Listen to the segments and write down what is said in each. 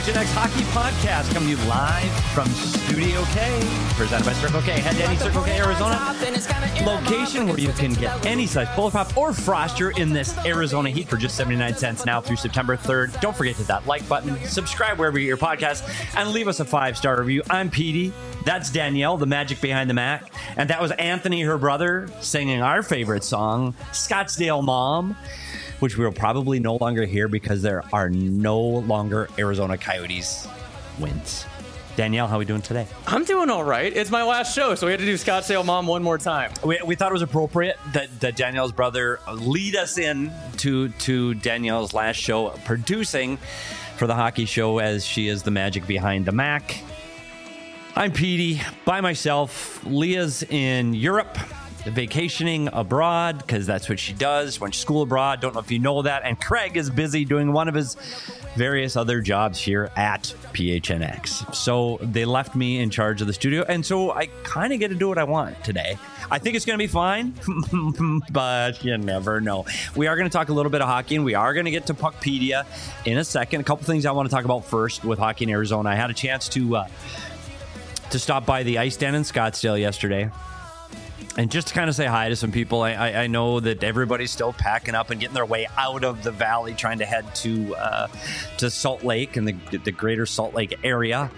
PHNX Hockey Podcast coming to you live from Studio K, presented by Circle K. Head to any Circle K, Arizona location where you can get any size pull pop or froster in this Arizona heat for just 79 cents now through September 3rd. Don't forget to hit that like button, subscribe wherever you get your podcast, and leave us a 5-star review. I'm Petey. That's Danielle, the magic behind the Mac. And that was Anthony, her brother, singing our favorite song, Scottsdale Mom, which we'll probably no longer hear because there are no longer Arizona Coyotes wins. Danielle, how are we doing today? I'm doing all right. It's my last show, so we had to do Scottsdale Mom one more time. We thought it was appropriate that Danielle's brother lead us in to Danielle's last show producing for the hockey show, as she is the magic behind the Mac. I'm Petey, by myself. Leah's in Europe, vacationing abroad, because that's what she does. Went to school abroad. Don't know if you know that. And Craig is busy doing one of his various other jobs here at PHNX. So they left me in charge of the studio, and so I kind of get to do what I want today. I think it's going to be fine, but you never know. We are going to talk a little bit of hockey, and we are going to get to Puckpedia in a second. A couple things I want to talk about first with hockey in Arizona. I had a chance to stop by the Ice Den in Scottsdale yesterday. And just to kind of say hi to some people. I know that everybody's still packing up and getting their way out of the valley, trying to head to Salt Lake and the greater Salt Lake area.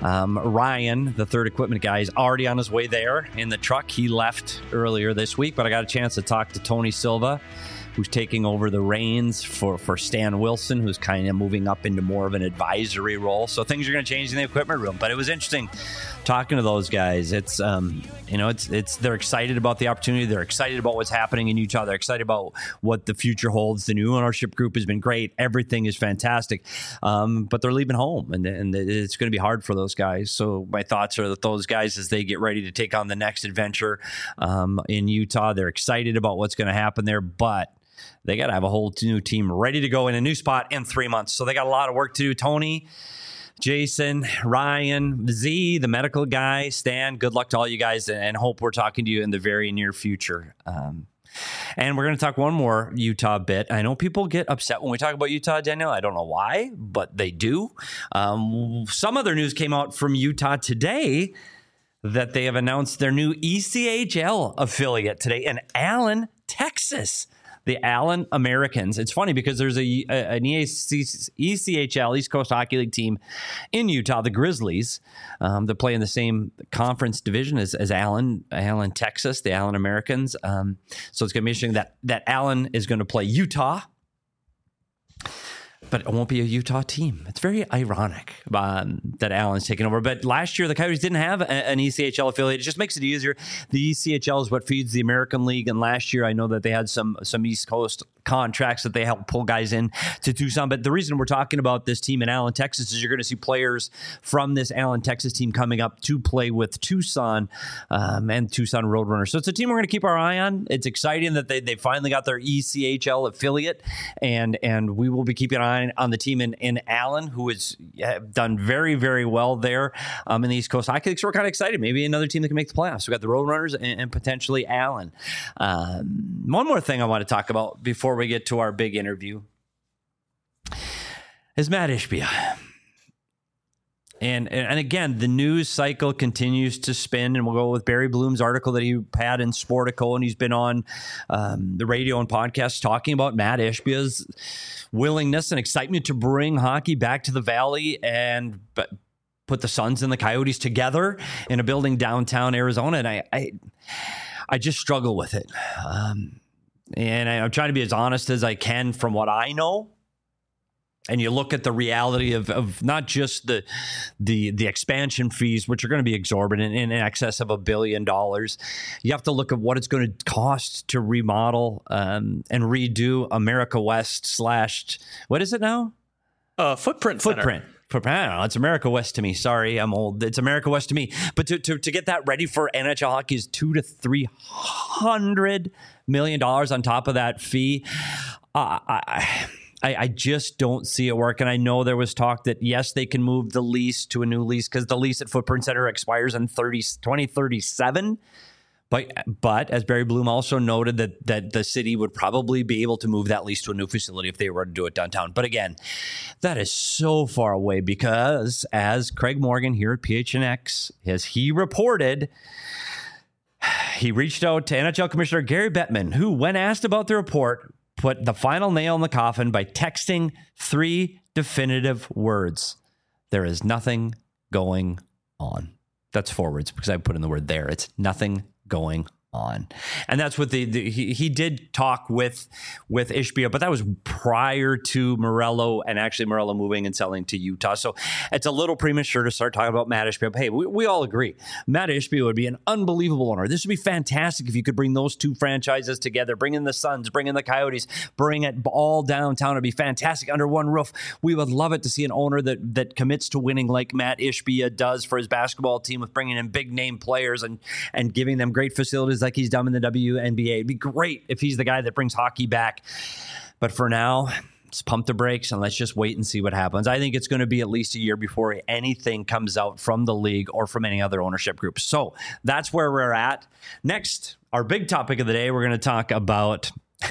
Ryan, the third equipment guy, is already on his way there in the truck. He left earlier this week, but I got a chance to talk to Tony Silva, who's taking over the reins for Stan Wilson, who's kind of moving up into more of an advisory role. So things are going to change in the equipment room. But it was interesting talking to those guys. It's they're excited about the opportunity. They're excited about what's happening in Utah. They're excited about what the future holds. The new ownership group has been great. Everything is fantastic. But they're leaving home, and it's going to be hard for those guys. So my thoughts are that those guys, as they get ready to take on the next adventure in Utah, they're excited about what's going to happen there. But they got to have a whole new team ready to go in a new spot in 3 months. So they got a lot of work to do. Tony, Jason, Ryan, Z, the medical guy, Stan, good luck to all you guys, and hope we're talking to you in the very near future. And we're going to talk one more Utah bit. I know people get upset when we talk about Utah, Daniel. I don't know why, but they do. Some other news came out from Utah today that they have announced their new ECHL affiliate today in Allen, Texas. The Allen Americans. It's funny because there's an ECHL, East Coast Hockey League team in Utah, the Grizzlies, that play in the same conference division as Allen, Texas, the Allen Americans. So it's going to be interesting that Allen is going to play Utah, but it won't be a Utah team. It's very ironic that Allen's taking over. But last year, the Coyotes didn't have an ECHL affiliate. It just makes it easier. The ECHL is what feeds the American League. And last year, I know that they had some East Coast contracts that they help pull guys in to Tucson. But the reason we're talking about this team in Allen, Texas, is you're going to see players from this Allen, Texas team coming up to play with Tucson and Tucson Roadrunners. So it's a team we're going to keep our eye on. It's exciting that they finally got their ECHL affiliate, and we will be keeping an eye on the team in Allen, who has done very, very well there in the East Coast Hockey League. So we're kind of excited. Maybe another team that can make the playoffs. We've got the Roadrunners and potentially Allen. One more thing I want to talk about before we get to our big interview is Matt Ishbia. And again, the news cycle continues to spin, and we'll go with Barry Bloom's article that he had in Sportico, and he's been on the radio and podcasts talking about Matt Ishbia's willingness and excitement to bring hockey back to the Valley and put the Suns and the Coyotes together in a building downtown Arizona. And I just struggle with it. And I'm trying to be as honest as I can from what I know. And you look at the reality of not just the expansion fees, which are going to be exorbitant in excess of $1 billion. You have to look at what it's going to cost to remodel and redo America West / what is it now? Footprint Center. I don't know. It's America West to me. Sorry, I'm old. It's America West to me. But to get that ready for NHL hockey is $200 to $300 million on top of that fee. I just don't see it work. And I know there was talk that, yes, they can move the lease to a new lease because the lease at Footprint Center expires in 2037. But as Barry Bloom also noted that the city would probably be able to move that lease to a new facility if they were to do it downtown. But again, that is so far away because as Craig Morgan here at PHNX, as he reported, he reached out to NHL Commissioner Gary Bettman, who, when asked about the report, put the final nail in the coffin by texting 3 definitive words. There is nothing going on. That's 4 words because I put in the word there. It's nothing going on. And that's what he did talk with Ishbia, but that was prior to Morello and actually Morello moving and selling to Utah. So it's a little premature to start talking about Matt Ishbia. But hey, we all agree. Matt Ishbia would be an unbelievable owner. This would be fantastic if you could bring those 2 franchises together, bring in the Suns, bring in the Coyotes, bring it all downtown. It'd be fantastic under one roof. We would love it to see an owner that commits to winning like Matt Ishbia does for his basketball team with bringing in big name players and giving them great facilities like he's done in the WNBA. It'd be great if he's the guy that brings hockey back. But for now, let's pump the brakes and let's just wait and see what happens. I think it's going to be at least a year before anything comes out from the league or from any other ownership group. So that's where we're at. Next, our big topic of the day, we're going to talk about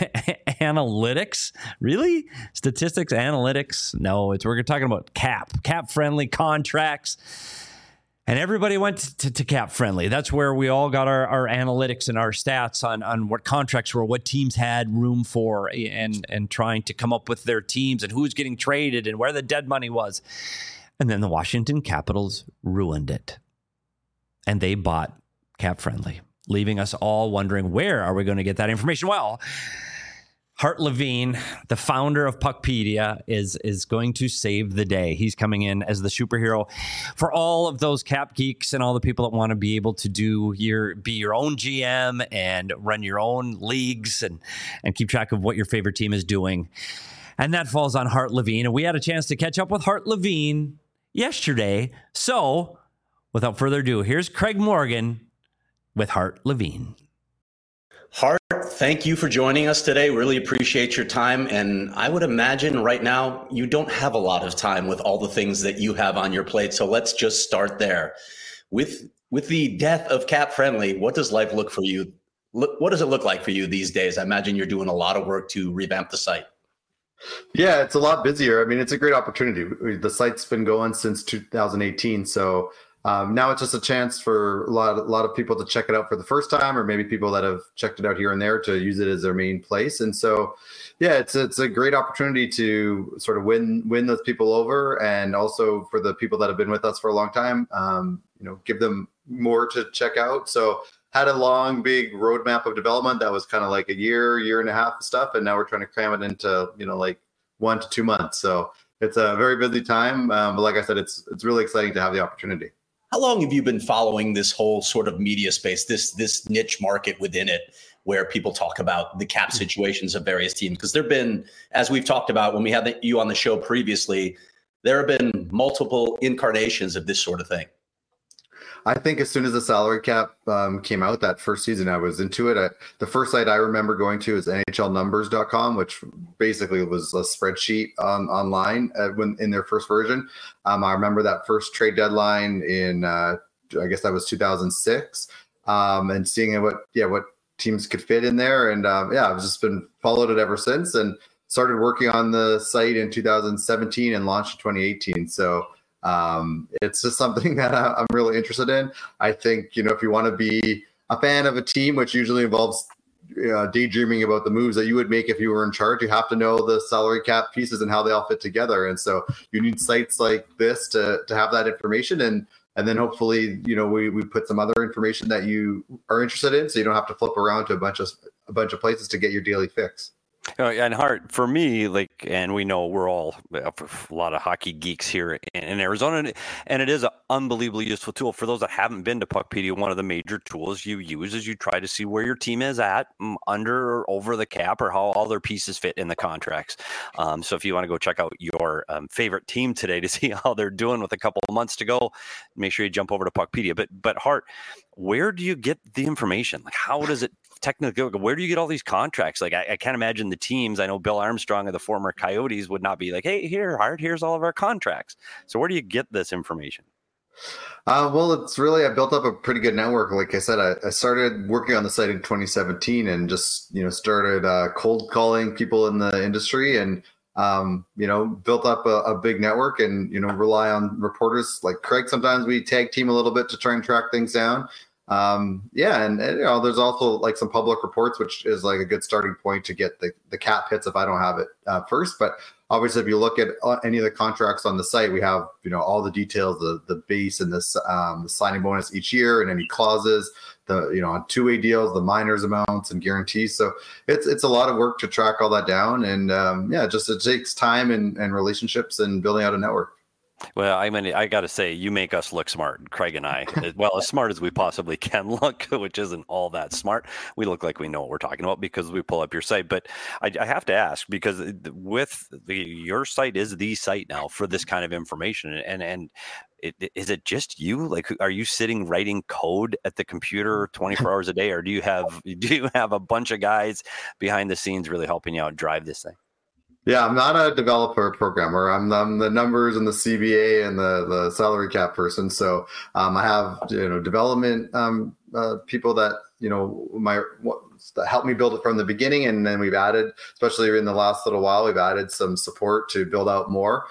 analytics. Really? Statistics, analytics? No, we're talking about cap-friendly contracts. And everybody went to Cap Friendly. That's where we all got our analytics and our stats on what contracts were, what teams had room for, and trying to come up with their teams and who's getting traded and where the dead money was. And then the Washington Capitals ruined it. And they bought Cap Friendly, leaving us all wondering, where are we going to get that information? Well, Hart Levine, the founder of Puckpedia, is going to save the day. He's coming in as the superhero for all of those cap geeks and all the people that want to be able to be your own GM and run your own leagues and keep track of what your favorite team is doing. And that falls on Hart Levine. And we had a chance to catch up with Hart Levine yesterday. So without further ado, here's Craig Morgan with Hart Levine. Hart, thank you for joining us today. Really appreciate your time. And I would imagine right now you don't have a lot of time with all the things that you have on your plate. So let's just start there. With the death of Cap Friendly, what does life look for you? What does it look like for you these days? I imagine you're doing a lot of work to revamp the site. Yeah, it's a lot busier. I mean, it's a great opportunity. The site's been going since 2018. So now it's just a chance for a lot of people to check it out for the first time, or maybe people that have checked it out here and there to use it as their main place. And so, yeah, it's a great opportunity to sort of win those people over, and also for the people that have been with us for a long time, give them more to check out. So had a long, big roadmap of development that was kind of like a year and a half of stuff, and now we're trying to cram it into like 1 to 2 months. So it's a very busy time, but like I said, it's really exciting to have the opportunity. How long have you been following this whole sort of media space, this niche market within it, where people talk about the cap situations of various teams? Because there have been, as we've talked about when we had you on the show previously, there have been multiple incarnations of this sort of thing. I think as soon as the salary cap came out that first season, I was into it. The first site I remember going to is NHLnumbers.com, which basically was a spreadsheet online when in their first version. I remember that first trade deadline in, I guess that was 2006, and seeing what teams could fit in there. And I've just been followed it ever since, and started working on the site in 2017 and launched in 2018. So it's just something that I'm really interested in. I think, if you want to be a fan of a team, which usually involves daydreaming about the moves that you would make if you were in charge, you have to know the salary cap pieces and how they all fit together. And so you need sites like this to have that information. And then hopefully, we put some other information that you are interested in, so you don't have to flip around to a bunch of places to get your daily fix. And Hart, for me, and we know we're all a lot of hockey geeks here in Arizona, and it is an unbelievably useful tool. For those that haven't been to Puckpedia, one of the major tools you use is you try to see where your team is at under or over the cap, or how all their pieces fit in the contracts. So if you want to go check out your favorite team today to see how they're doing with a couple of months to go, make sure you jump over to Puckpedia. But Hart, where do you get the information? How does it technically, where do you get all these contracts? I can't imagine the teams. I know Bill Armstrong of the former Coyotes would not be like, hey, here, Hart, here's all of our contracts. So where do you get this information? Well, it's really, I built up a pretty good network. Like I said, I started working on the site in 2017 and just, started cold calling people in the industry and, built up a big network and, rely on reporters like Craig. Sometimes we tag team a little bit to try and track things down. And there's also like some public reports, which is like a good starting point to get the cap hits if I don't have it first. But obviously, if you look at any of the contracts on the site, we have all the details, the base and the signing bonus each year, and any clauses, on two-way deals, the minors amounts and guarantees. So it's a lot of work to track all that down, and it takes time and relationships and building out a network. Well, I mean, I got to say, you make us look smart, Craig and I. Well, as smart as we possibly can look, which isn't all that smart. We look like we know what we're talking about because we pull up your site. But I have to ask, because your site is the site now for this kind of information. And is it just you? Like, are you sitting writing code at the computer 24 hours a day, or do you have a bunch of guys behind the scenes really helping you out drive this thing? Yeah, I'm not a developer programmer. I'm the numbers and the CBA and the salary cap person. So I have development people that that help me build it from the beginning, and then we've added, especially in the last little while, we've added some support to build out more.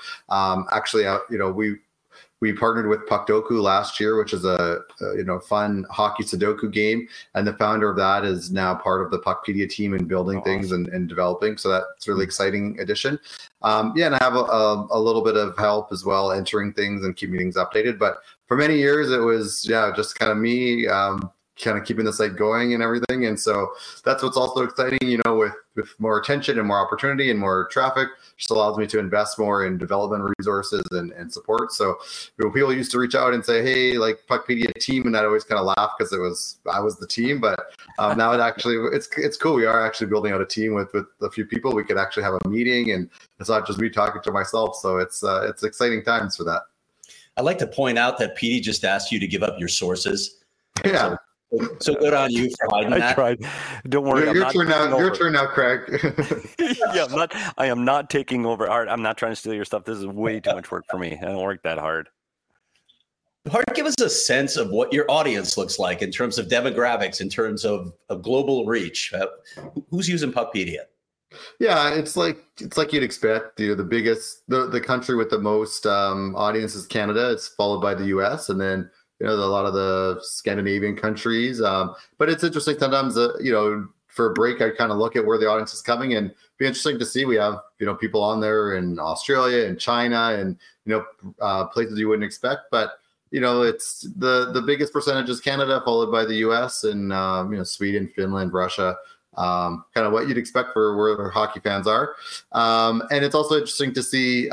We partnered with Puckdoku last year, which is a fun hockey Sudoku game, and the founder of that is now part of the Puckpedia team and building things and developing. So that's a really exciting addition. And I have a little bit of help as well, entering things and keeping things updated. But for many years, it was just kind of me, kind of keeping the site going and everything. And so that's what's also exciting, with more attention and more opportunity and more traffic, just allows me to invest more in development resources and support. So people used to reach out and say, hey, like Puckpedia team, and I'd always kind of laugh because I was the team. But now it's cool. We are actually building out a team with a few people. We could actually have a meeting, and it's not just me talking to myself. So it's exciting times for that. I'd like to point out that Petey just asked you to give up your sources. Yeah. So good on you for hiding that. I tried. Don't worry. Your turn now, Craig. Yeah, I am not taking over. Art, I'm not trying to steal your stuff. This is way too much work for me. I don't work that hard. Hard, give us a sense of what your audience looks like in terms of demographics, in terms of global reach. Who's using Puckpedia? Yeah, it's like you'd expect. The country with the most audience is Canada. It's followed by the U.S. and then a lot of the Scandinavian countries. But it's interesting sometimes, for a break, I kind of look at where the audience is coming, and be interesting to see. We have, people on there in Australia and China and, places you wouldn't expect. But, it's the biggest percentage is Canada, followed by the US and, Sweden, Finland, Russia, kind of what you'd expect for where hockey fans are. And it's also interesting to see,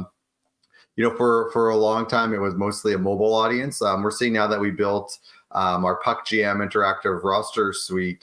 for a long time, it was mostly a mobile audience. We're seeing now that we built our PuckGM interactive roster suite.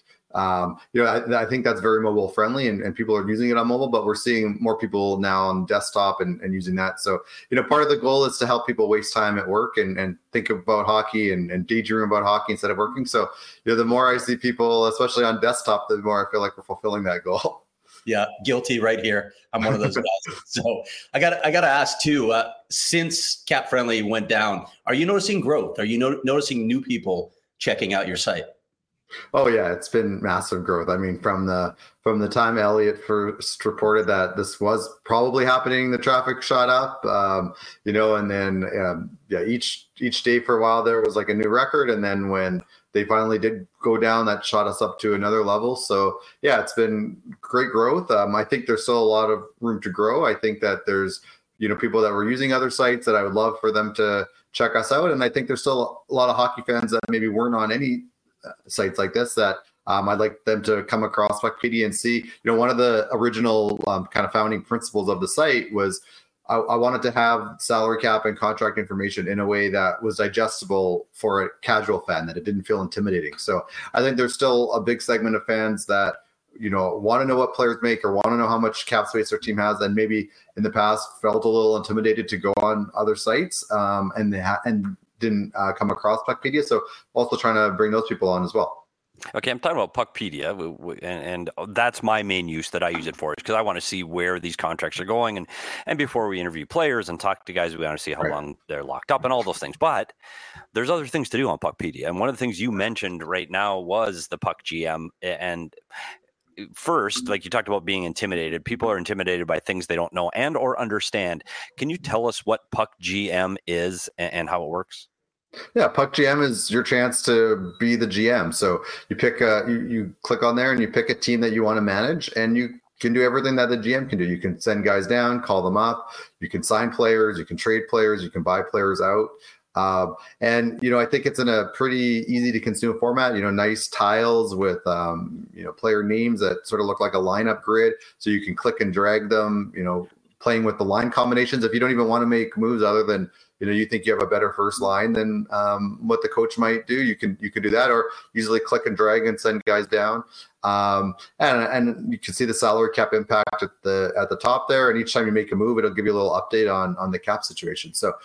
I think that's very mobile friendly and people are using it on mobile, but we're seeing more people now on desktop and using that. So, part of the goal is to help people waste time at work and think about hockey and daydream about hockey instead of working. So, the more I see people, especially on desktop, the more I feel like we're fulfilling that goal. Yeah, guilty right here. I'm one of those guys. So I got to ask too. Since Cap Friendly went down, are you noticing growth? Are you noticing new people checking out your site? Oh yeah, it's been massive growth. I mean, from the time Elliot first reported that this was probably happening, the traffic shot up. And then each day for a while there was like a new record, and then when they finally did go down, that shot us up to another level. So yeah, it's been great growth. I think there's still a lot of room to grow. I think that there's, people that were using other sites that I would love for them to check us out. And I think there's still a lot of hockey fans that maybe weren't on any sites like this that I'd like them to come across Puckpedia and see. One of the original kind of founding principles of the site was I wanted to have salary cap and contract information in a way that was digestible for a casual fan, that it didn't feel intimidating. So I think there's still a big segment of fans that, want to know what players make or want to know how much cap space their team has, and maybe in the past felt a little intimidated to go on other sites and didn't come across Puckpedia. So also trying to bring those people on as well. Okay, I'm talking about Puckpedia, and that's my main use that I use it for, is because I want to see where these contracts are going, and before we interview players and talk to guys, we want to see how long they're locked up and all those things. But there's other things to do on Puckpedia, and one of the things you mentioned right now was the Puck GM. And first, like you talked about being intimidated, people are intimidated by things they don't know and or understand. Can you tell us what Puck GM is and how it works? Yeah, Puck GM is your chance to be the GM. So you pick you click on there and you pick a team that you want to manage, and you can do everything that the GM can do. You can send guys down, call them up, you can sign players, you can trade players, you can buy players out. And, I think it's in a pretty easy to consume format, nice tiles with, player names that sort of look like a lineup grid. So you can click and drag them, playing with the line combinations. If you don't even want to make moves other than, you think you have a better first line than what the coach might do, you can do that, or easily click and drag and send guys down. And you can see the salary cap impact at the top there. And each time you make a move, it'll give you a little update on the cap situation. So,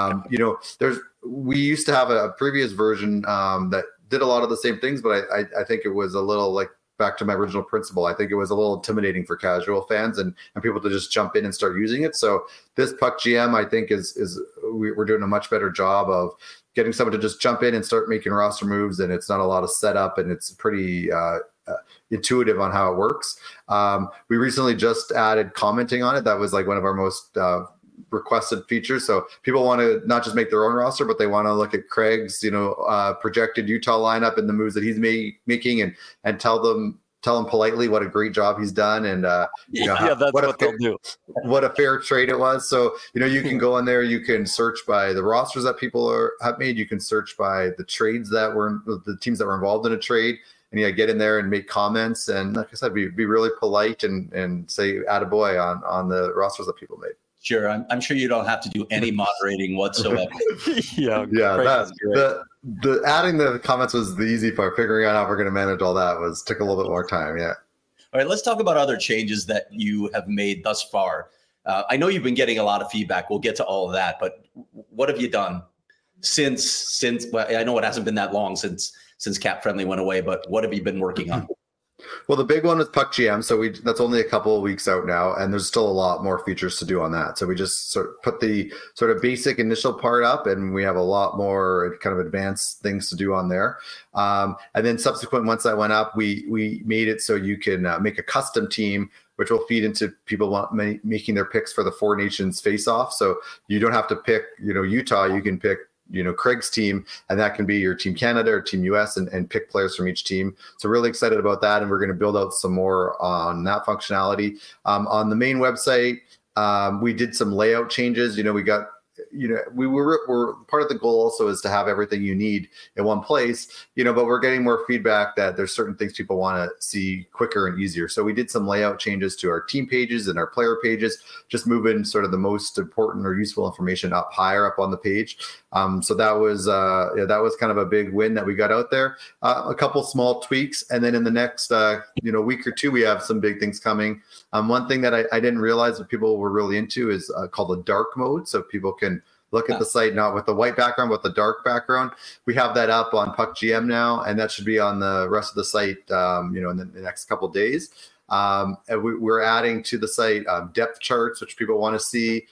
we used to have a previous version that did a lot of the same things, but I think it was a little like, back to my original principle, I think it was a little intimidating for casual fans and people to just jump in and start using it. So this Puck GM, I think we're doing a much better job of getting someone to just jump in and start making roster moves. And it's not a lot of setup, and it's pretty intuitive on how it works. We recently just added commenting on it. That was like one of our most requested features. So people want to not just make their own roster, but they want to look at Craig's, projected Utah lineup and the moves that he's making, and tell them politely what a great job he's done, and that's what they'll do. What a fair trade it was. So you can go in there, you can search by the rosters that people have made, you can search by the trades that were the teams that were involved in a trade, and get in there and make comments, and like I said, be really polite and say attaboy on the rosters that people made. Sure. I'm sure you don't have to do any moderating whatsoever. Yeah. The adding the comments was the easy part. Figuring out how we're going to manage all that took a little bit more time. Yeah. All right. Let's talk about other changes that you have made thus far. I know you've been getting a lot of feedback. We'll get to all of that, but what have you done since? Well, I know it hasn't been that long since Cap Friendly went away, but what have you been working on? Well, the big one is Puck GM. So that's only a couple of weeks out now, and there's still a lot more features to do on that. So we just sort of put the sort of basic initial part up, and we have a lot more kind of advanced things to do on there. And then subsequent, once that went up, we made it so you can make a custom team, which will feed into people making their picks for the Four Nations face-off. So you don't have to pick, Utah. You can pick Craig's team, and that can be your Team Canada or Team US, and pick players from each team. So really excited about that, and we're going to build out some more on that functionality. On the main website, we did some layout changes. We got we're part of the goal also is to have everything you need in one place, but we're getting more feedback that there's certain things people want to see quicker and easier. So we did some layout changes to our team pages and our player pages, just moving sort of the most important or useful information up higher up on the page. So that was kind of a big win that we got out there. A couple small tweaks, and then in the next week or two, we have some big things coming. One thing that I didn't realize that people were really into is called the dark mode, so people can look at the site not with the white background, but the dark background. We have that up on Puck GM now, and that should be on the rest of the site, in the next couple of days. And we're adding to the site depth charts, which people want to see.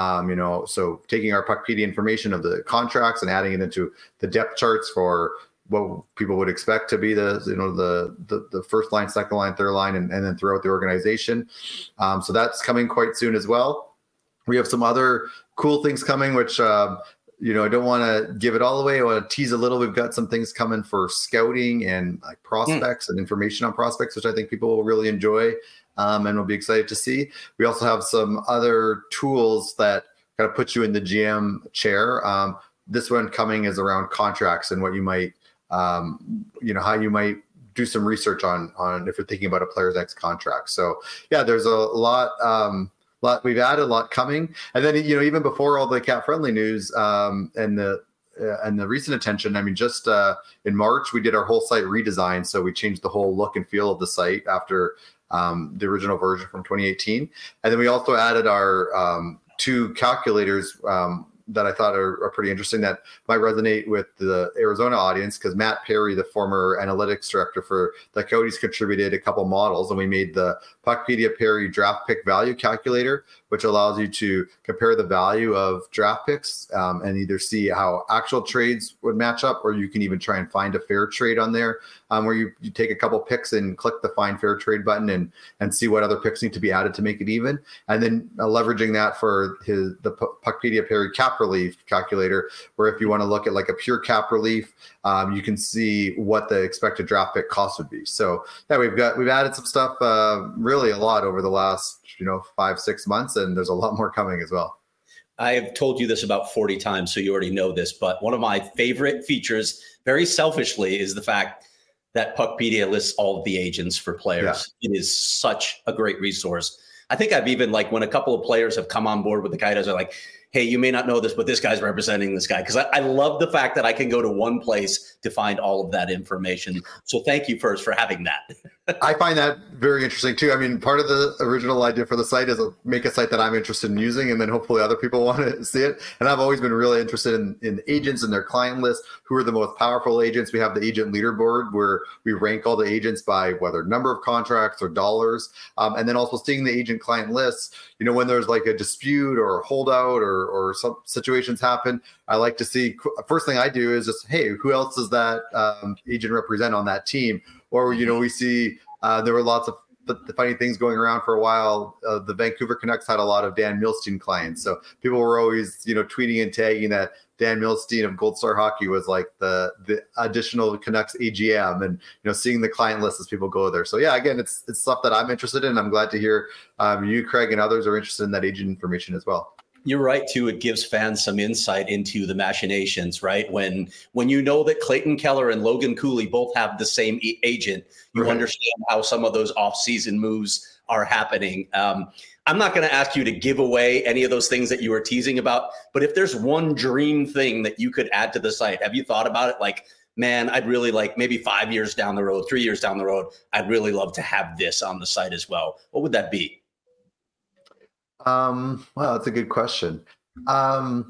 So taking our Puckpedia information of the contracts and adding it into the depth charts for what people would expect to be the first line, second line, third line, and then throughout the organization. So that's coming quite soon as well. We have some other cool things coming, which, I don't want to give it all away. I want to tease a little. We've got some things coming for scouting and like prospects and information on prospects, which I think people will really enjoy and will be excited to see. We also have some other tools that kind of put you in the GM chair. This one coming is around contracts and what you might, how you might do some research on if you're thinking about a player's next contract. So yeah, there's a lot we've added, a lot coming. And then, even before all the Cap Friendly news and the recent attention, I mean, just in March, we did our whole site redesign. So we changed the whole look and feel of the site after the original version from 2018. And then we also added our two calculators, that I thought are pretty interesting that might resonate with the Arizona audience, because Matt Perry, the former analytics director for the Coyotes, contributed a couple models, and we made the Puckpedia Perry draft pick value calculator, which allows you to compare the value of draft picks and either see how actual trades would match up, or you can even try and find a fair trade on there, where you take a couple picks and click the find fair trade button and see what other picks need to be added to make it even. And then leveraging that for the Puckpedia Perry cap relief calculator, where if you want to look at like a pure cap relief, you can see what the expected draft pick cost would be. So yeah, we've added some stuff, really a lot over the last 5-6 months, and there's a lot more coming as well. I have told you this about 40 times, so you already know this, but one of my favorite features, very selfishly, is the fact that Puckpedia lists all of the agents for players. Yeah. It is such a great resource. I think I've even, like, when a couple of players have come on board with the Coyotes, are like, hey, you may not know this, but this guy's representing this guy. Because I love the fact that I can go to one place to find all of that information. So thank you first for having that. I find that very interesting too. I mean, part of the original idea for the site is make a site that I'm interested in using, and then hopefully other people want to see it. And I've always been really interested in agents and their client list. Who are the most powerful agents? We have the agent leaderboard where we rank all the agents by whether number of contracts or dollars. And then also seeing the agent client lists, when there's like a dispute or a holdout or some situations happen, I like to see, first thing I do is just, hey, who else does that agent represent on that team? Or, we see there were lots of the funny things going around for a while. The Vancouver Canucks had a lot of Dan Milstein clients. So people were always, tweeting and tagging that Dan Milstein of Gold Star Hockey was like the additional Canucks AGM, and, seeing the client list as people go there. So yeah, again, it's stuff that I'm interested in. I'm glad to hear you, Craig, and others are interested in that agent information as well. You're right, too. It gives fans some insight into the machinations, right? When you know that Clayton Keller and Logan Cooley both have the same agent, you understand how some of those off-season moves are happening. I'm not going to ask you to give away any of those things that you were teasing about, but if there's one dream thing that you could add to the site, have you thought about it? Like, man, I'd really like maybe 5 years down the road, 3 years down the road, I'd really love to have this on the site as well. What would that be? Well, that's a good question. I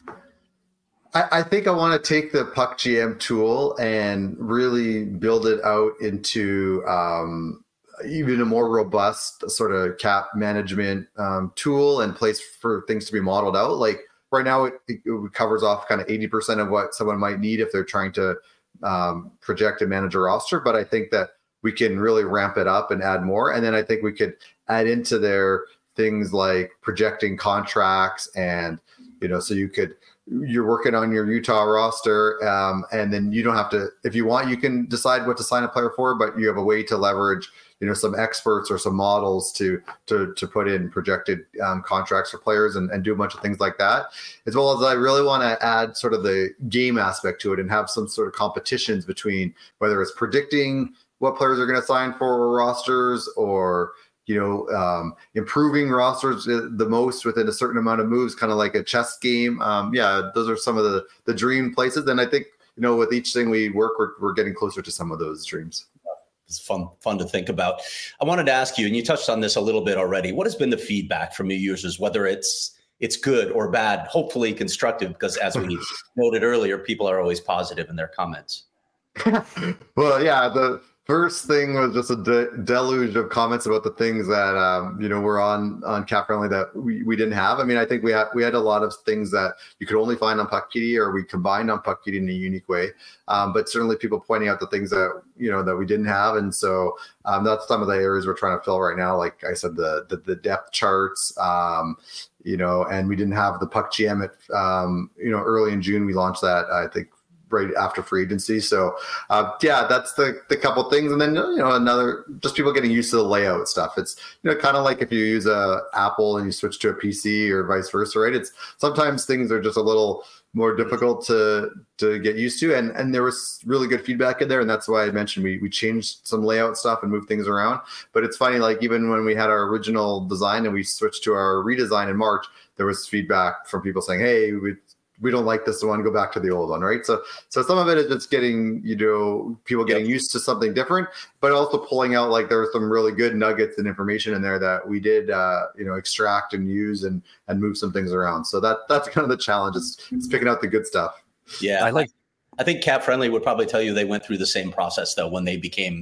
think I want to take the Puck GM tool and really build it out into even a more robust sort of cap management tool and place for things to be modeled out. Like right now, it covers off kind of 80% of what someone might need if they're trying to project and manage a roster. But I think that we can really ramp it up and add more. And then I think we could add into there things like projecting contracts, and so you're working on your Utah roster, and then you don't have to, if you want, you can decide what to sign a player for, but you have a way to leverage some experts or some models to put in projected contracts for players and do a bunch of things like that. As well as I really want to add sort of the game aspect to it and have some sort of competitions between whether it's predicting what players are going to sign for rosters, or improving rosters the most within a certain amount of moves, kind of like a chess game. Those are some of the dream places. And I think, with each thing we work, we're getting closer to some of those dreams. It's fun to think about. I wanted to ask you, and you touched on this a little bit already, what has been the feedback from your users, whether it's good or bad, hopefully constructive, because as we noted earlier, people are always positive in their comments. Well, yeah, the first thing was just a deluge of comments about the things that were on Cap Friendly that we didn't have. I mean, I think we had a lot of things that you could only find on Puckpedia, or we combined on Puckpedia in a unique way. But certainly people pointing out the things that that we didn't have, and so that's some of the areas we're trying to fill right now. Like I said, the depth charts, and we didn't have the Puck GM at early in June. We launched that, I think, right after free agency. So that's the couple things. And then, another, just people getting used to the layout stuff. It's, kind of like if you use a Apple and you switch to a PC or vice versa, right? It's sometimes things are just a little more difficult to get used to. And there was really good feedback in there. And that's why I mentioned we changed some layout stuff and moved things around. But it's funny, like even when we had our original design and we switched to our redesign in March, there was feedback from people saying, hey, we don't like this one, go back to the old one, right? So some of it is just getting, people getting used to something different, but also pulling out, like, there were some really good nuggets and information in there that we did, extract and use and move some things around. So that's kind of the challenge, is picking out the good stuff. Yeah. I think Cap Friendly would probably tell you they went through the same process, though, when they became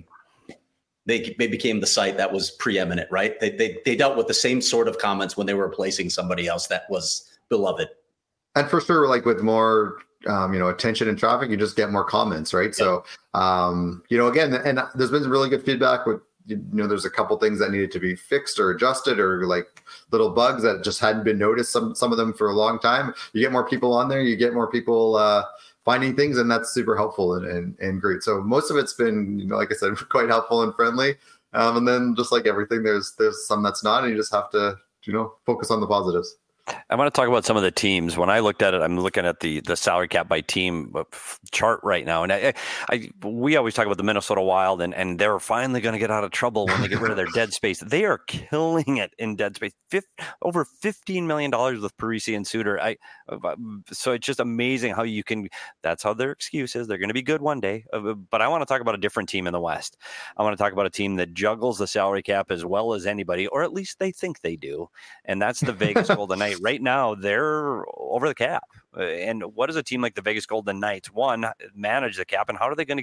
the site that was preeminent, right? They dealt with the same sort of comments when they were replacing somebody else that was beloved. And for sure, like, with more, attention and traffic, you just get more comments, right? Yeah. So, again, and there's been really good feedback with, there's a couple things that needed to be fixed or adjusted, or like little bugs that just hadn't been noticed. Some of them for a long time. You get more people on there, you get more people finding things, and that's super helpful and great. So most of it's been, like I said, quite helpful and friendly. And then, just like everything, there's some that's not, and you just have to, focus on the positives. I want to talk about some of the teams. When I looked at it, I'm looking at the salary cap by team chart right now. And we always talk about the Minnesota Wild, and they're finally going to get out of trouble when they get rid of their dead space. They are killing it in dead space. Over $15 million with Parise and Suter. So it's just amazing how you can, that's how their excuse is. They're going to be good one day. But I want to talk about a different team in the West. I want to talk about a team that juggles the salary cap as well as anybody, or at least they think they do. And that's the Vegas Golden Knights. Right now, they're over the cap. And what does a team like the Vegas Golden Knights, one, manage the cap, and how are they going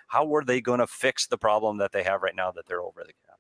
to fix the problem that they have right now that they're over the cap?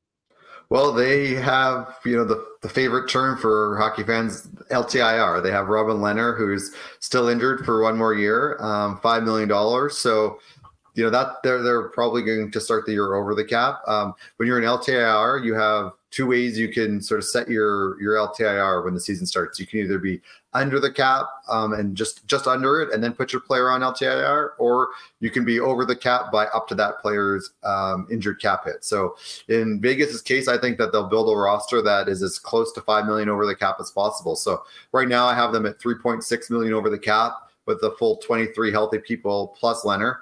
Well, they have, the favorite term for hockey fans, LTIR. They have Robin Lehner, who's still injured for one more year, $5 million. So, that they're probably going to start the year over the cap. When you're in LTIR, you have two ways you can sort of set your LTIR when the season starts. You can either be under the cap and just under it, and then put your player on LTIR, or you can be over the cap by up to that player's injured cap hit. So in Vegas's case, I think that they'll build a roster that is as close to $5 million over the cap as possible. So right now I have them at $3.6 million over the cap with the full 23 healthy people plus Lehner.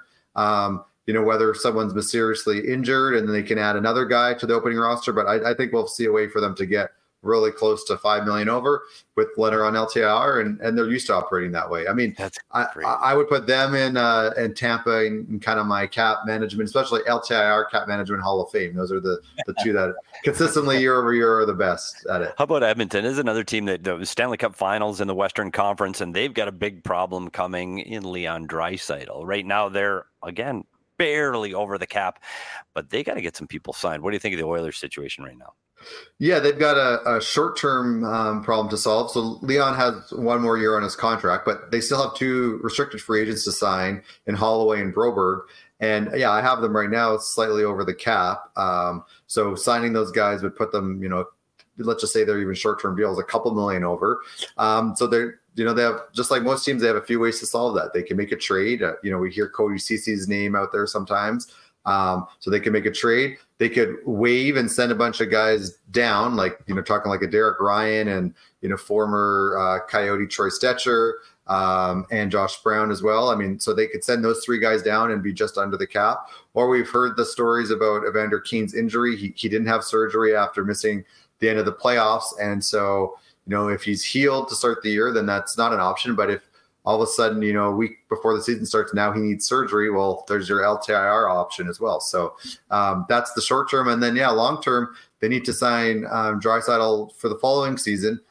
Whether someone's mysteriously injured and then they can add another guy to the opening roster. But I think we'll see a way for them to get really close to $5 million over with Lehner on LTIR, and they're used to operating that way. I mean, I would put them in Tampa in kind of my cap management, especially LTIR cap management Hall of Fame. Those are the two that consistently year over year are the best at it. How about Edmonton? Is another team that the Stanley Cup Finals in the Western Conference, and they've got a big problem coming in Leon Draisaitl. Right now, they're, again, barely over the cap, but they got to get some people signed. What do you think of the Oilers situation right now? Yeah, they've got a short-term problem to solve. So Leon has one more year on his contract, but they still have two restricted free agents to sign in Holloway and Broberg. And yeah, I have them right now slightly over the cap. So signing those guys would put them, let's just say they're even short-term deals, a couple million over. So they're, they have, just like most teams, they have a few ways to solve that. They can make a trade. We hear Cody Cece's name out there sometimes. So they can make a trade. They could waive and send a bunch of guys down, like, talking like a Derek Ryan and, former Coyote Troy Stetcher and Josh Brown as well. I mean, so they could send those three guys down and be just under the cap. Or we've heard the stories about Evander Kane's injury. He didn't have surgery after missing the end of the playoffs. And so, if he's healed to start the year, then that's not an option. But if all of a sudden, a week before the season starts, now he needs surgery, well, there's your LTIR option as well. So that's the short term. And then, long term, they need to sign Draisaitl for the following season.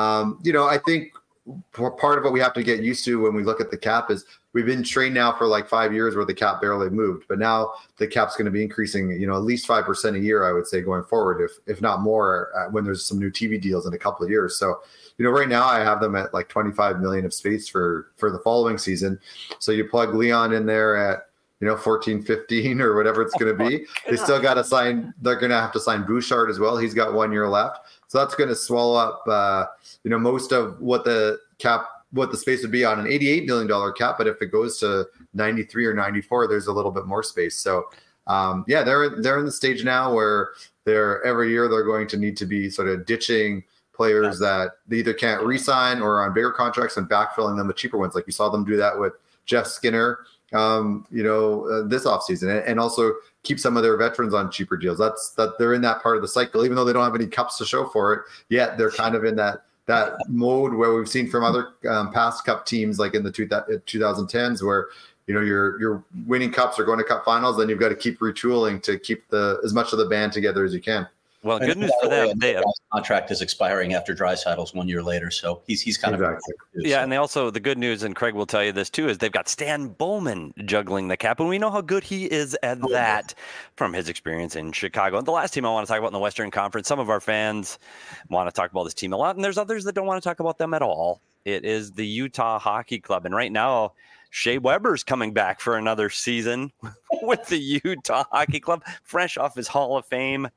I think part of what we have to get used to when we look at the cap is we've been trained now for like 5 years where the cap barely moved, but now the cap's going to be increasing, at least 5% a year, I would say, going forward, if not more, when there's some new TV deals in a couple of years. So, right now I have them at like 25 million of space for the following season. So you plug Leon in there at, 14, 15 or whatever it's going to be. They still got to sign. They're going to have to sign Bouchard as well. He's got 1 year left. So that's going to swallow up, most of what the space would be on an $88 million cap. But if it goes to 93 or 94, there's a little bit more space. So, they're in the stage now where every year they're going to need to be sort of ditching players that they either can't re-sign or are on bigger contracts and backfilling them with cheaper ones. Like you saw them do that with Jeff Skinner, this offseason, and also keep some of their veterans on cheaper deals. That they're in that part of the cycle, even though they don't have any cups to show for it yet. They're kind of in that that mode where we've seen from other past cup teams, like in the 2010s, where you're winning cups or going to cup finals, then you've got to keep retooling to keep as much of the band together as you can. Well, good news for them. His contract is expiring after Draisaitl's 1 year later, so he's kind of yeah. And they also, the good news, and Craig will tell you this too, is they've got Stan Bowman juggling the cap, and we know how good he is at that from his experience in Chicago. And the last team I want to talk about in the Western Conference, some of our fans want to talk about this team a lot, and there's others that don't want to talk about them at all. It is the Utah Hockey Club, and right now, Shea Weber's coming back for another season with the Utah Hockey Club, fresh off his Hall of Fame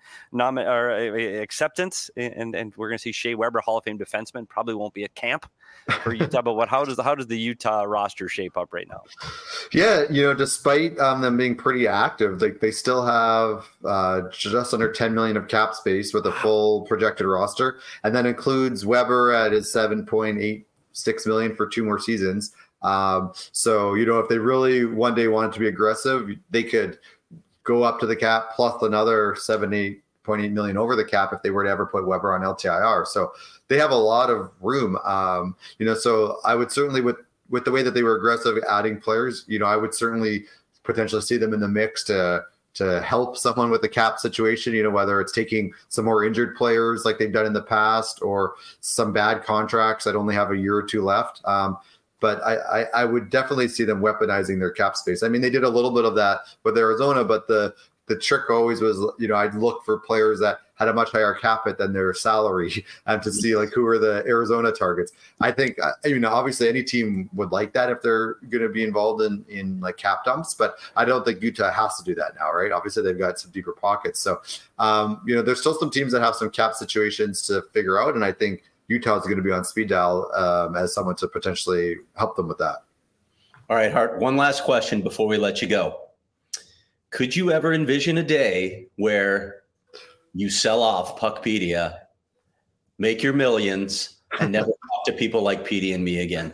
acceptance, and we're going to see Shea Weber, Hall of Fame defenseman, probably won't be at camp for Utah. But how does the Utah roster shape up right now? Yeah, despite them being pretty active, they still have just under $10 million of cap space with a full projected roster, and that includes Weber at his $7.86 million for 2 more seasons. So if they really one day wanted to be aggressive, they could go up to the cap plus another $8.8 million over the cap if they were to ever put Weber on LTIR. So they have a lot of room. So I would certainly, with the way that they were aggressive adding players, I would certainly potentially see them in the mix to help someone with the cap situation, whether it's taking some more injured players like they've done in the past, or some bad contracts that only have a year or 2 left. But I would definitely see them weaponizing their cap space. I mean, they did a little bit of that with Arizona, but the trick always was, I'd look for players that had a much higher cap hit than their salary and to see who are the Arizona targets. I think, obviously any team would like that if they're going to be involved in cap dumps, but I don't think Utah has to do that now, right? Obviously they've got some deeper pockets. So, there's still some teams that have some cap situations to figure out. And I think Utah is going to be on speed dial as someone to potentially help them with that. All right, Hart, one last question before we let you go. Could you ever envision a day where you sell off Puckpedia, make your millions, and never talk to people like Petey and me again?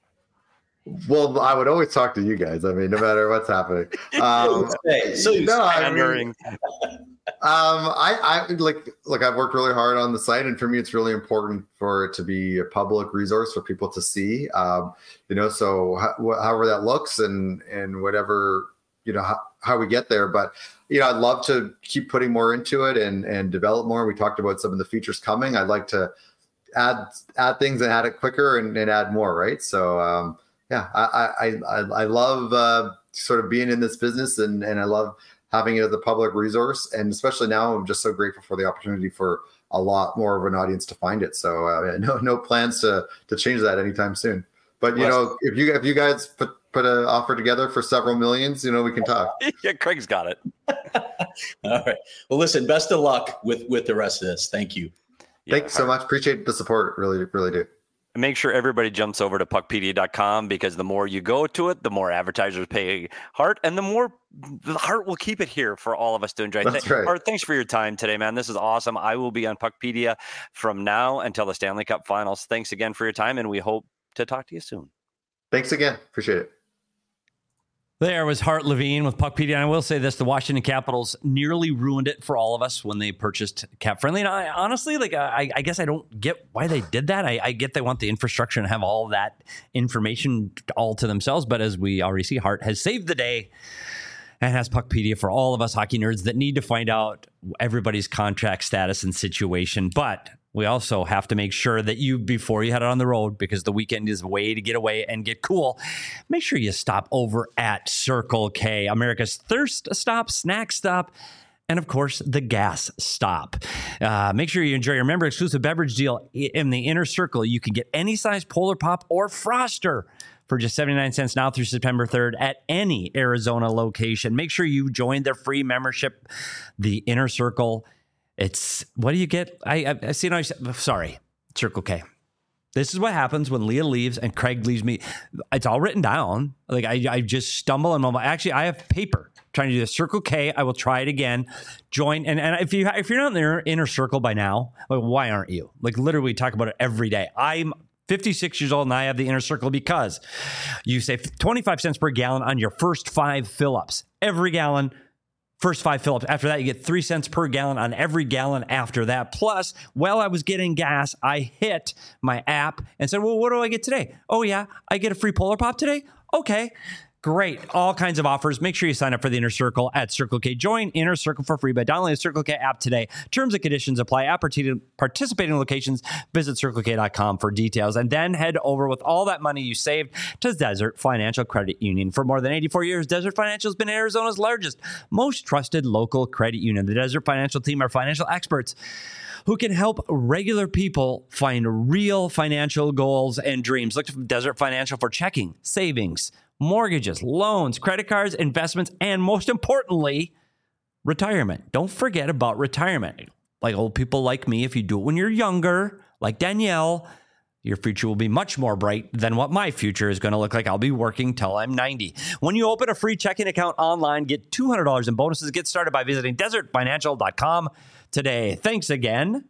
Well, I would always talk to you guys. I mean, no matter what's happening. I've worked really hard on the site, and for me, it's really important for it to be a public resource for people to see. So however that looks, and whatever how we get there. But I'd love to keep putting more into it and develop more. We talked about some of the features coming. I'd like to add things and add it quicker and add more. Right. So I love sort of being in this business, and I love having it as a public resource. And especially now, I'm just so grateful for the opportunity for a lot more of an audience to find it. So no plans to change that anytime soon. But if you guys put an offer together for several millions, we can talk. Yeah, Craig's got it. All right. Well, listen, best of luck with the rest of this. Thank you. Thanks so much. Appreciate the support. Really, really do. Make sure everybody jumps over to puckpedia.com, because the more you go to it, the more advertisers pay Hart, and the more the Hart will keep it here for all of us to enjoy. That's right. Hart, thanks for your time today, man. This is awesome. I will be on Puckpedia from now until the Stanley Cup Finals. Thanks again for your time, and we hope to talk to you soon. Thanks again. Appreciate it. There was Hart Levine with Puckpedia. And I will say this, the Washington Capitals nearly ruined it for all of us when they purchased Cap Friendly. And I honestly, I guess I don't get why they did that. I get they want the infrastructure and have all that information all to themselves. But as we already see, Hart has saved the day and has Puckpedia for all of us hockey nerds that need to find out everybody's contract status and situation. But we also have to make sure that before you head out on the road, because the weekend is a way to get away and get cool, make sure you stop over at Circle K, America's thirst stop, snack stop, and of course, the gas stop. Make sure you enjoy your member exclusive beverage deal in the Inner Circle. You can get any size Polar Pop or Froster for just 79 cents now through September 3rd at any Arizona location. Make sure you join their free membership, the Inner Circle. It's, what do you get? I see. Sorry, Circle K. This is what happens when Leah leaves and Craig leaves me. It's all written down. I just stumble and mumble. Actually, I have paper trying to do this. Circle K. I will try it again. Join. And if you're not in their Inner Circle by now, why aren't you? Literally, we talk about it every day. I'm 56 years old and I have the Inner Circle because you save 25 cents per gallon on your first 5 fill-ups. Every gallon, First 5 fill-ups. After that, you get 3 cents per gallon on every gallon after that. Plus, while I was getting gas, I hit my app and said, well, what do I get today? Oh, yeah, I get a free Polar Pop today? Okay. Great. All kinds of offers. Make sure you sign up for the Inner Circle at Circle K. Join Inner Circle for free by downloading the Circle K app today. Terms and conditions apply. Participating locations, visit CircleK.com for details. And then head over with all that money you saved to Desert Financial Credit Union. For more than 84 years, Desert Financial has been Arizona's largest, most trusted local credit union. The Desert Financial team are financial experts who can help regular people find real financial goals and dreams. Look to Desert Financial for checking, savings, mortgages, loans, credit cards, investments, and most importantly, retirement. Don't forget about retirement. Like old people like me, if you do it when you're younger, like Danielle, your future will be much more bright than what my future is going to look like. I'll be working till I'm 90. When you open a free checking account online, get $200 in bonuses. Get started by visiting desertfinancial.com today. Thanks again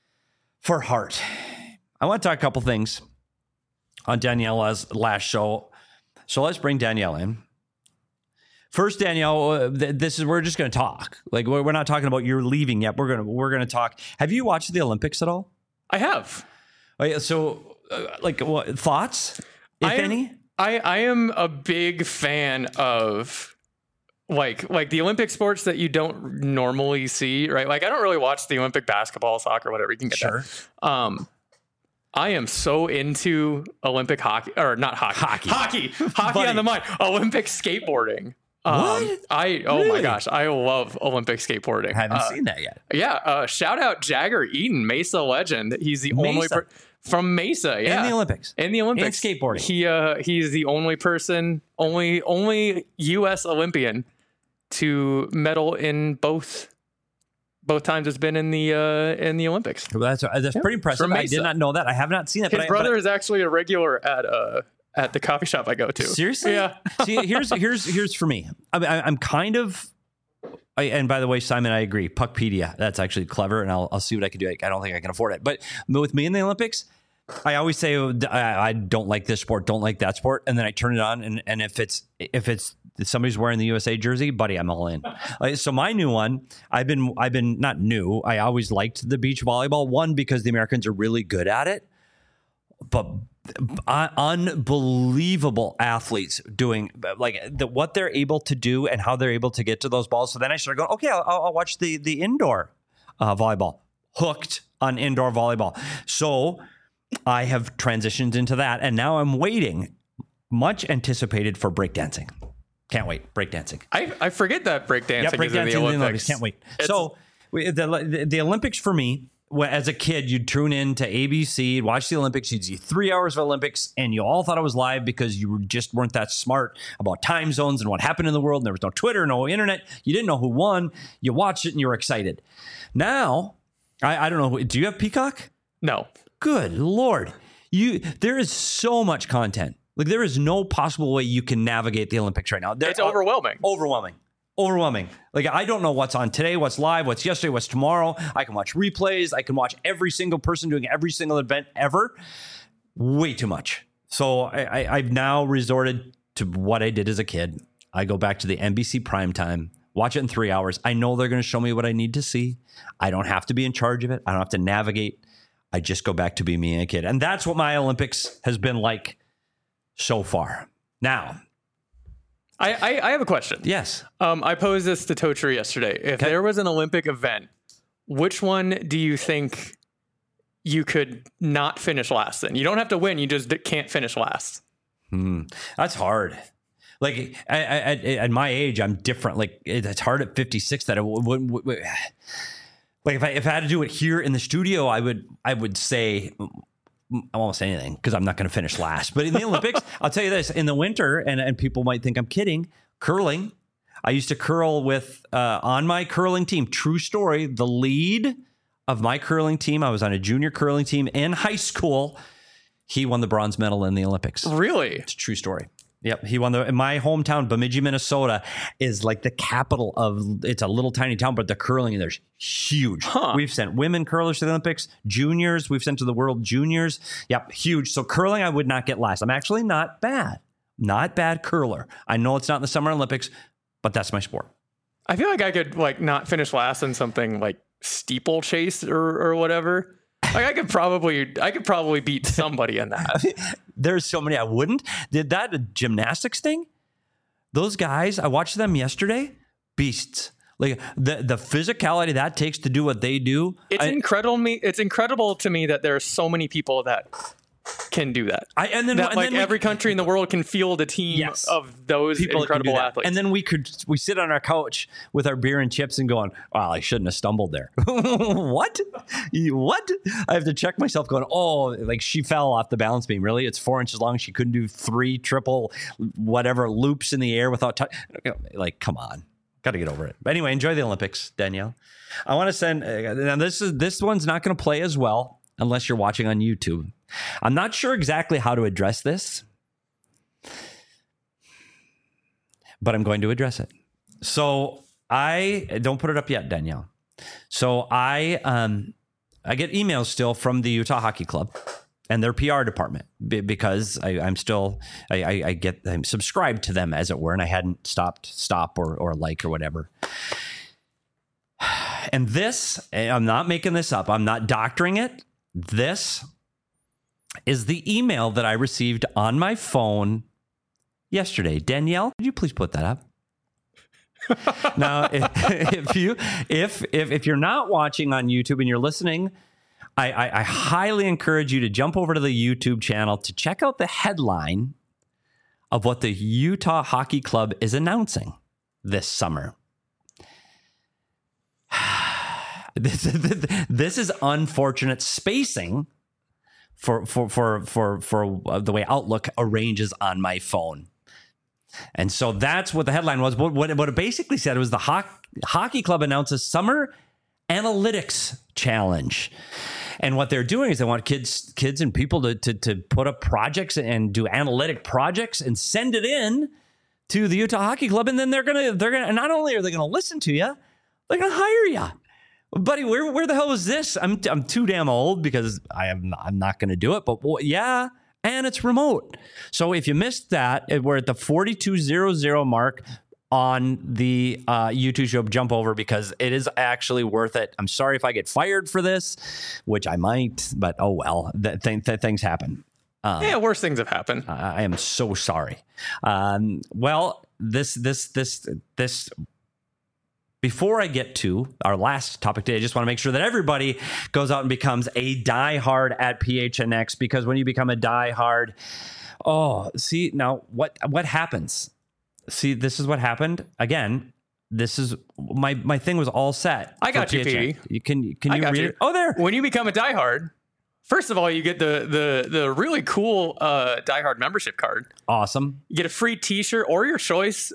for Heart. I want to talk a couple things on Danielle's last show. So let's bring Danielle in. First, Danielle, we're just going to talk. Like we're not talking about you're leaving yet. We're going to talk. Have you watched the Olympics at all? I have. Oh, yeah, so, what thoughts, if any? I am a big fan of like the Olympic sports that you don't normally see, right? Like I don't really watch the Olympic basketball, soccer, whatever. You can get that. I am so into Olympic hockey, or not hockey. Hockey on the mind. Olympic skateboarding. What? Oh my gosh, I love Olympic skateboarding. I haven't seen that yet. Yeah. Shout out Jagger Eaton, Mesa legend. He's the only from Mesa. Yeah. In the Olympics. In skateboarding. He's the only person, only U.S. Olympian to medal in both times it's been in the Olympics. Well, that's pretty impressive. I did not know that. I have not seen it. His brother is actually a regular at the coffee shop I go to. Seriously? Yeah. See, here's for me. I'm kind of. And by the way, Simon, I agree. Puckpedia, that's actually clever, and I'll see what I can do. I don't think I can afford it, but with me in the Olympics, I always say I don't like this sport, don't like that sport, and then I turn it on, and if it's somebody's wearing the USA jersey, buddy, I'm all in. So my new one, I've been not new. I always liked the beach volleyball one because the Americans are really good at it, but unbelievable athletes doing what they're able to do and how they're able to get to those balls. So then I started going, okay, I'll watch the indoor volleyball. Hooked on indoor volleyball. So I have transitioned into that, and now I'm waiting, much anticipated, for breakdancing. Can't wait. Breakdancing. I forget that breakdancing is in the Olympics. Can't wait. So the Olympics for me, as a kid, you'd tune in to ABC, watch the Olympics, you'd see 3 hours of Olympics, and you all thought it was live because you just weren't that smart about time zones and what happened in the world. And there was no Twitter, no internet. You didn't know who won. You watched it and you were excited. Now, I don't know. Do you have Peacock? No. Good Lord. There is so much content. Like there is no possible way you can navigate the Olympics right now. It's overwhelming. Overwhelming. Like I don't know what's on today, what's live, what's yesterday, what's tomorrow. I can watch replays. I can watch every single person doing every single event ever. Way too much. So I've now resorted to what I did as a kid. I go back to the NBC primetime, watch it in 3 hours. I know they're going to show me what I need to see. I don't have to be in charge of it. I don't have to navigate. I just go back to be me and a kid. And that's what my Olympics has been like so far. Now, I have a question. Yes. I posed this to Totri yesterday. If there was an Olympic event, which one do you think you could not finish last in? You don't have to win. You just can't finish last. That's hard. Like at my age, I'm different. Like it's hard at 56 that I wouldn't. Like if I had to do it here in the studio, I would say almost anything because I'm not going to finish last. But in the Olympics, I'll tell you this: in the winter, and people might think I'm kidding, curling. I used to curl with on my curling team. True story. The lead of my curling team, I was on a junior curling team in high school. He won the bronze medal in the Olympics. Really? It's a true story. Yep. He won in my hometown, Bemidji, Minnesota, is like the capital of, it's a little tiny town, but the curling in there's huge. We've sent women curlers to the Olympics, juniors, we've sent to the World Juniors. Yep. Huge. So curling, I would not get last. I'm actually not bad curler. I know it's not in the Summer Olympics, but that's my sport. I feel like I could like not finish last in something like steeplechase or whatever. Like I could probably beat somebody in that. There's so many I wouldn't. Did that gymnastics thing? Those guys, I watched them yesterday. Beasts. Like the physicality that takes to do what they do. It's incredible to me that there are so many people that can do that. Every country in the world can field a team of those people incredible athletes. And then we sit on our couch with our beer and chips and going, "Well, I shouldn't have stumbled there." What? I have to check myself going, "Oh, like she fell off the balance beam. Really? It's 4 inches long. She couldn't do 3 triple whatever loops in the air without like, come on." Got to get over it. But anyway, enjoy the Olympics, Danielle. I want to send. Now this one's not going to play as well unless you're watching on YouTube. I'm not sure exactly how to address this, but I'm going to address it. So I don't put it up yet, Danielle. So I get emails still from the Utah Hockey Club and their PR department because I'm subscribed to them, as it were, and I hadn't stop or like or whatever. And this, I'm not making this up. I'm not doctoring it. This is the email that I received on my phone yesterday. Danielle, could you please put that up? Now, if you're not watching on YouTube and you're listening, I highly encourage you to jump over to the YouTube channel to check out the headline of what the Utah Hockey Club is announcing this summer. This is unfortunate spacing for the way Outlook arranges on my phone. And so that's what the headline was. What it basically said was the Hockey Club announces Summer Analytics Challenge. And what they're doing is they want kids and people to put up projects and do analytic projects and send it in to the Utah Hockey Club. And then they're gonna not only are they gonna listen to you, they're gonna hire you. Buddy, where the hell was this? I'm too damn old because I'm not going to do it. But yeah, and it's remote. So if you missed that, we're at the 4200 mark on the YouTube show. Jump over because it is actually worth it. I'm sorry if I get fired for this, which I might, but oh well. Things happen. Worse things have happened. I am so sorry. Well, this. Before I get to our last topic today, I just want to make sure that everybody goes out and becomes a diehard at PHNX, because when you become a diehard, see now what happens? See, this is what happened. Again, this is my thing was all set. I got you, Petey. Can you read it? Oh, there. When you become a diehard, first of all, you get the really cool diehard membership card. Awesome. You get a free T-shirt or your choice,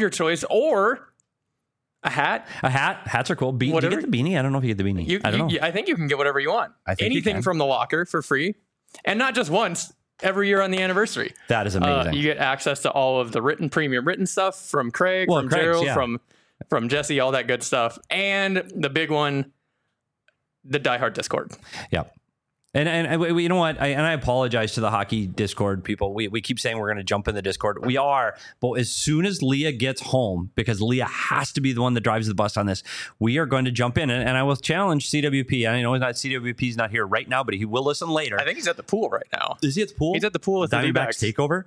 or a hat. Hats are cool. Do you get the beanie? I don't know if you get the beanie. I don't know. I think you can get whatever you want. Anything from the locker for free. And not just once, every year on the anniversary. That is amazing. You get access to all of the premium written stuff from Craig, from Gerald, from Jesse, all that good stuff. And the big one, the diehard Discord. Yep. And you know what? I apologize to the hockey Discord people. We keep saying we're going to jump in the Discord. We are. But as soon as Leah gets home, because Leah has to be the one that drives the bus on this, we are going to jump in. And I will challenge CWP. I know CWP's not here right now, but he will listen later. I think he's at the pool right now. Is he at the pool? He's at the pool with the Diamondbacks takeover.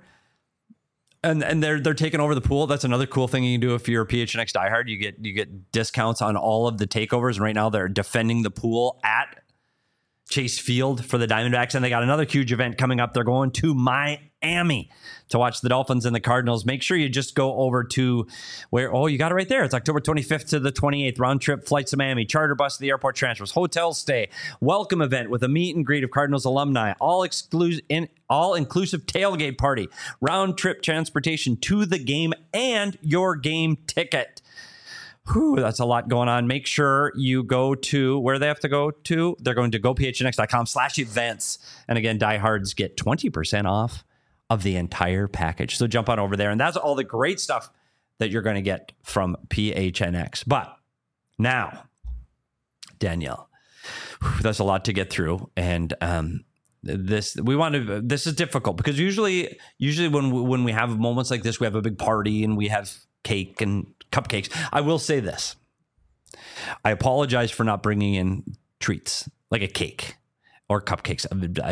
And they're taking over the pool. That's another cool thing you can do if you're a PHNX diehard. You get discounts on all of the takeovers. And right now they're defending the pool at Chase Field for the Diamondbacks, and they got another huge event coming up. They're going to Miami to watch the Dolphins and the Cardinals. Make sure you just go over to you got it right there. It's October 25th to the 28th. Round trip flights to Miami, charter bus to the airport, transfers, hotel stay, welcome event with a meet and greet of Cardinals alumni, all inclusive tailgate party, round trip transportation to the game, and your game ticket. Whew, that's a lot going on. Make sure you go to where they have to go to. They're going to gophnx.com/events. And again, diehards get 20% off of the entire package. So jump on over there. And that's all the great stuff that you're going to get from PHNX. But now, Danielle, that's a lot to get through. And this is difficult because usually when we have moments like this, we have a big party and we have cake and cupcakes. I will say this. I apologize for not bringing in treats like a cake or cupcakes.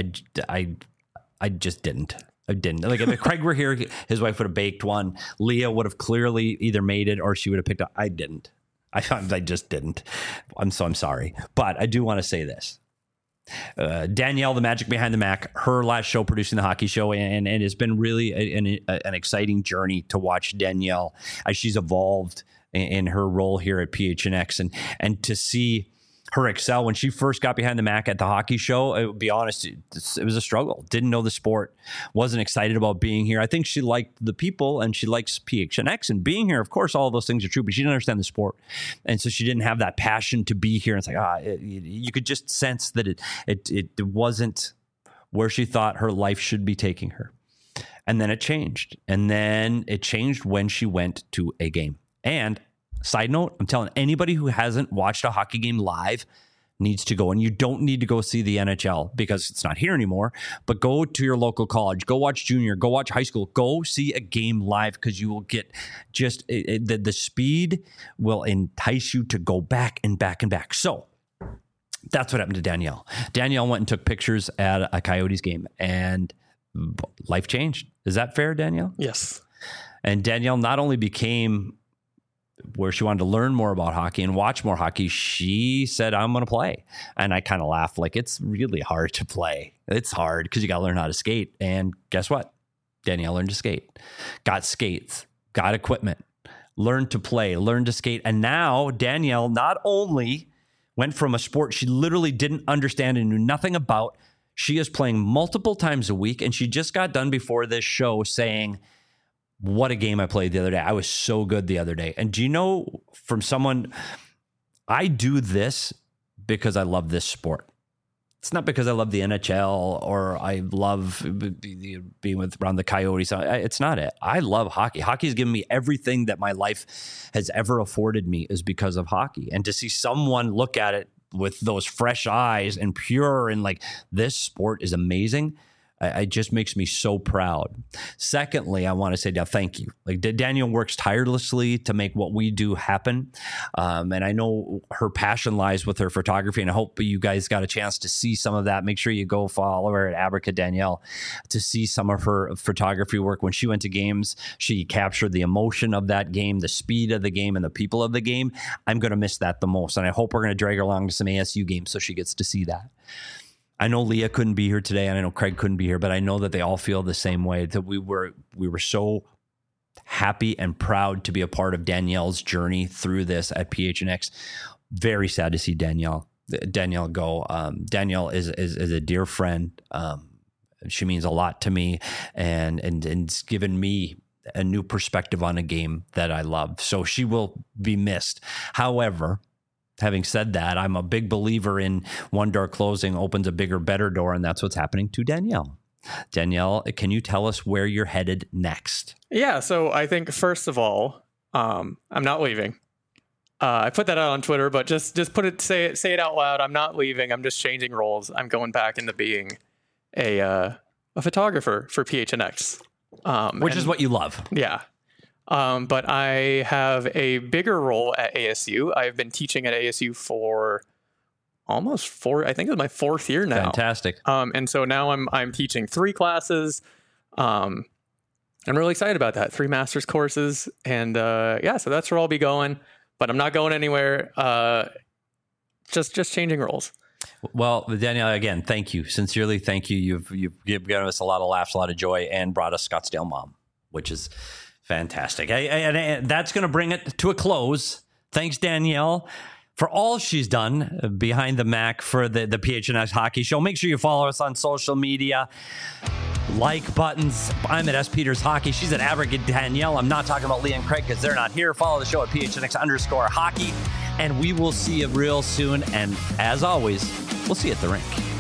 I just didn't. I didn't. Like if Craig were here, his wife would have baked one. Leah would have clearly either made it or she would have picked up. I didn't. I just didn't. I'm sorry. But I do want to say this. Danielle, the magic behind the Mac, her last show producing the hockey show, and it's been really an exciting journey to watch Danielle as she's evolved in her role here at PHNX, and to see her excel. When she first got behind the Mac at the hockey show, I'll be honest, it was a struggle. Didn't know the sport, wasn't excited about being here. I think she liked the people and she likes PHNX and being here. Of course, all of those things are true, but she didn't understand the sport. And so she didn't have that passion to be here. It's like, you could just sense that it wasn't where she thought her life should be taking her. And then it changed. And then it changed when she went to a game. And side note, I'm telling anybody who hasn't watched a hockey game live needs to go. And you don't need to go see the NHL because it's not here anymore, but go to your local college, go watch junior, go watch high school, go see a game live because you will get just the speed will entice you to go back and back and back. So that's what happened to Danielle. Danielle went and took pictures at a Coyotes game and life changed. Is that fair, Danielle? Yes. And Danielle not only became where she wanted to learn more about hockey and watch more hockey, she said, I'm going to play. And I kind of laughed, like, it's really hard to play. It's hard because you got to learn how to skate. And guess what? Danielle learned to skate, got skates, got equipment, learned to play, learned to skate. And now Danielle not only went from a sport she literally didn't understand and knew nothing about, she is playing multiple times a week. And she just got done before this show saying, what a game I played the other day. I was so good the other day. And do you know, from someone, I do this because I love this sport. It's not because I love the NHL or I love being around the Coyotes. It's not it. I love hockey. Hockey has given me everything that my life has ever afforded me is because of hockey. And to see someone look at it with those fresh eyes and pure and like, this sport is amazing, it just makes me so proud. Secondly, I want to say thank you. Like Danielle works tirelessly to make what we do happen. And I know her passion lies with her photography, and I hope you guys got a chance to see some of that. Make sure you go follow her at Abrica Danielle to see some of her photography work. When she went to games, she captured the emotion of that game, the speed of the game, and the people of the game. I'm going to miss that the most. And I hope we're going to drag her along to some ASU games so she gets to see that. I know Leah couldn't be here today, and I know Craig couldn't be here, but I know that they all feel the same way, that we were so happy and proud to be a part of Danielle's journey through this at PHNX. Very sad to see Danielle go. Danielle is a dear friend. She means a lot to me, and it's given me a new perspective on a game that I love. So she will be missed. However, having said that, I'm a big believer in one door closing opens a bigger, better door, and that's what's happening to Danielle. Danielle, can you tell us where you're headed next? Yeah, so I think, first of all, I'm not leaving. I put that out on Twitter, but just say it out loud. I'm not leaving. I'm just changing roles. I'm going back into being a photographer for PHNX. Which is what you love. Yeah. But I have a bigger role at ASU. I've been teaching at ASU for almost I think it's my 4th year now. Fantastic. And so now I'm teaching 3 classes. I'm really excited about that. 3 master's courses. And so that's where I'll be going, but I'm not going anywhere. Just changing roles. Well, Danielle, again, thank you. Sincerely, thank you. You've given us a lot of laughs, a lot of joy, and brought us Scottsdale Mom, which is fantastic. And that's going to bring it to a close. Thanks, Danielle, for all she's done behind the Mac for the PHNX Hockey Show. Make sure you follow us on social media. Like buttons. I'm at S. Peters Hockey. She's at Abrica Danielle. I'm not talking about Lee and Craig because they're not here. Follow the show at PHNX_hockey. And we will see you real soon. And as always, we'll see you at the rink.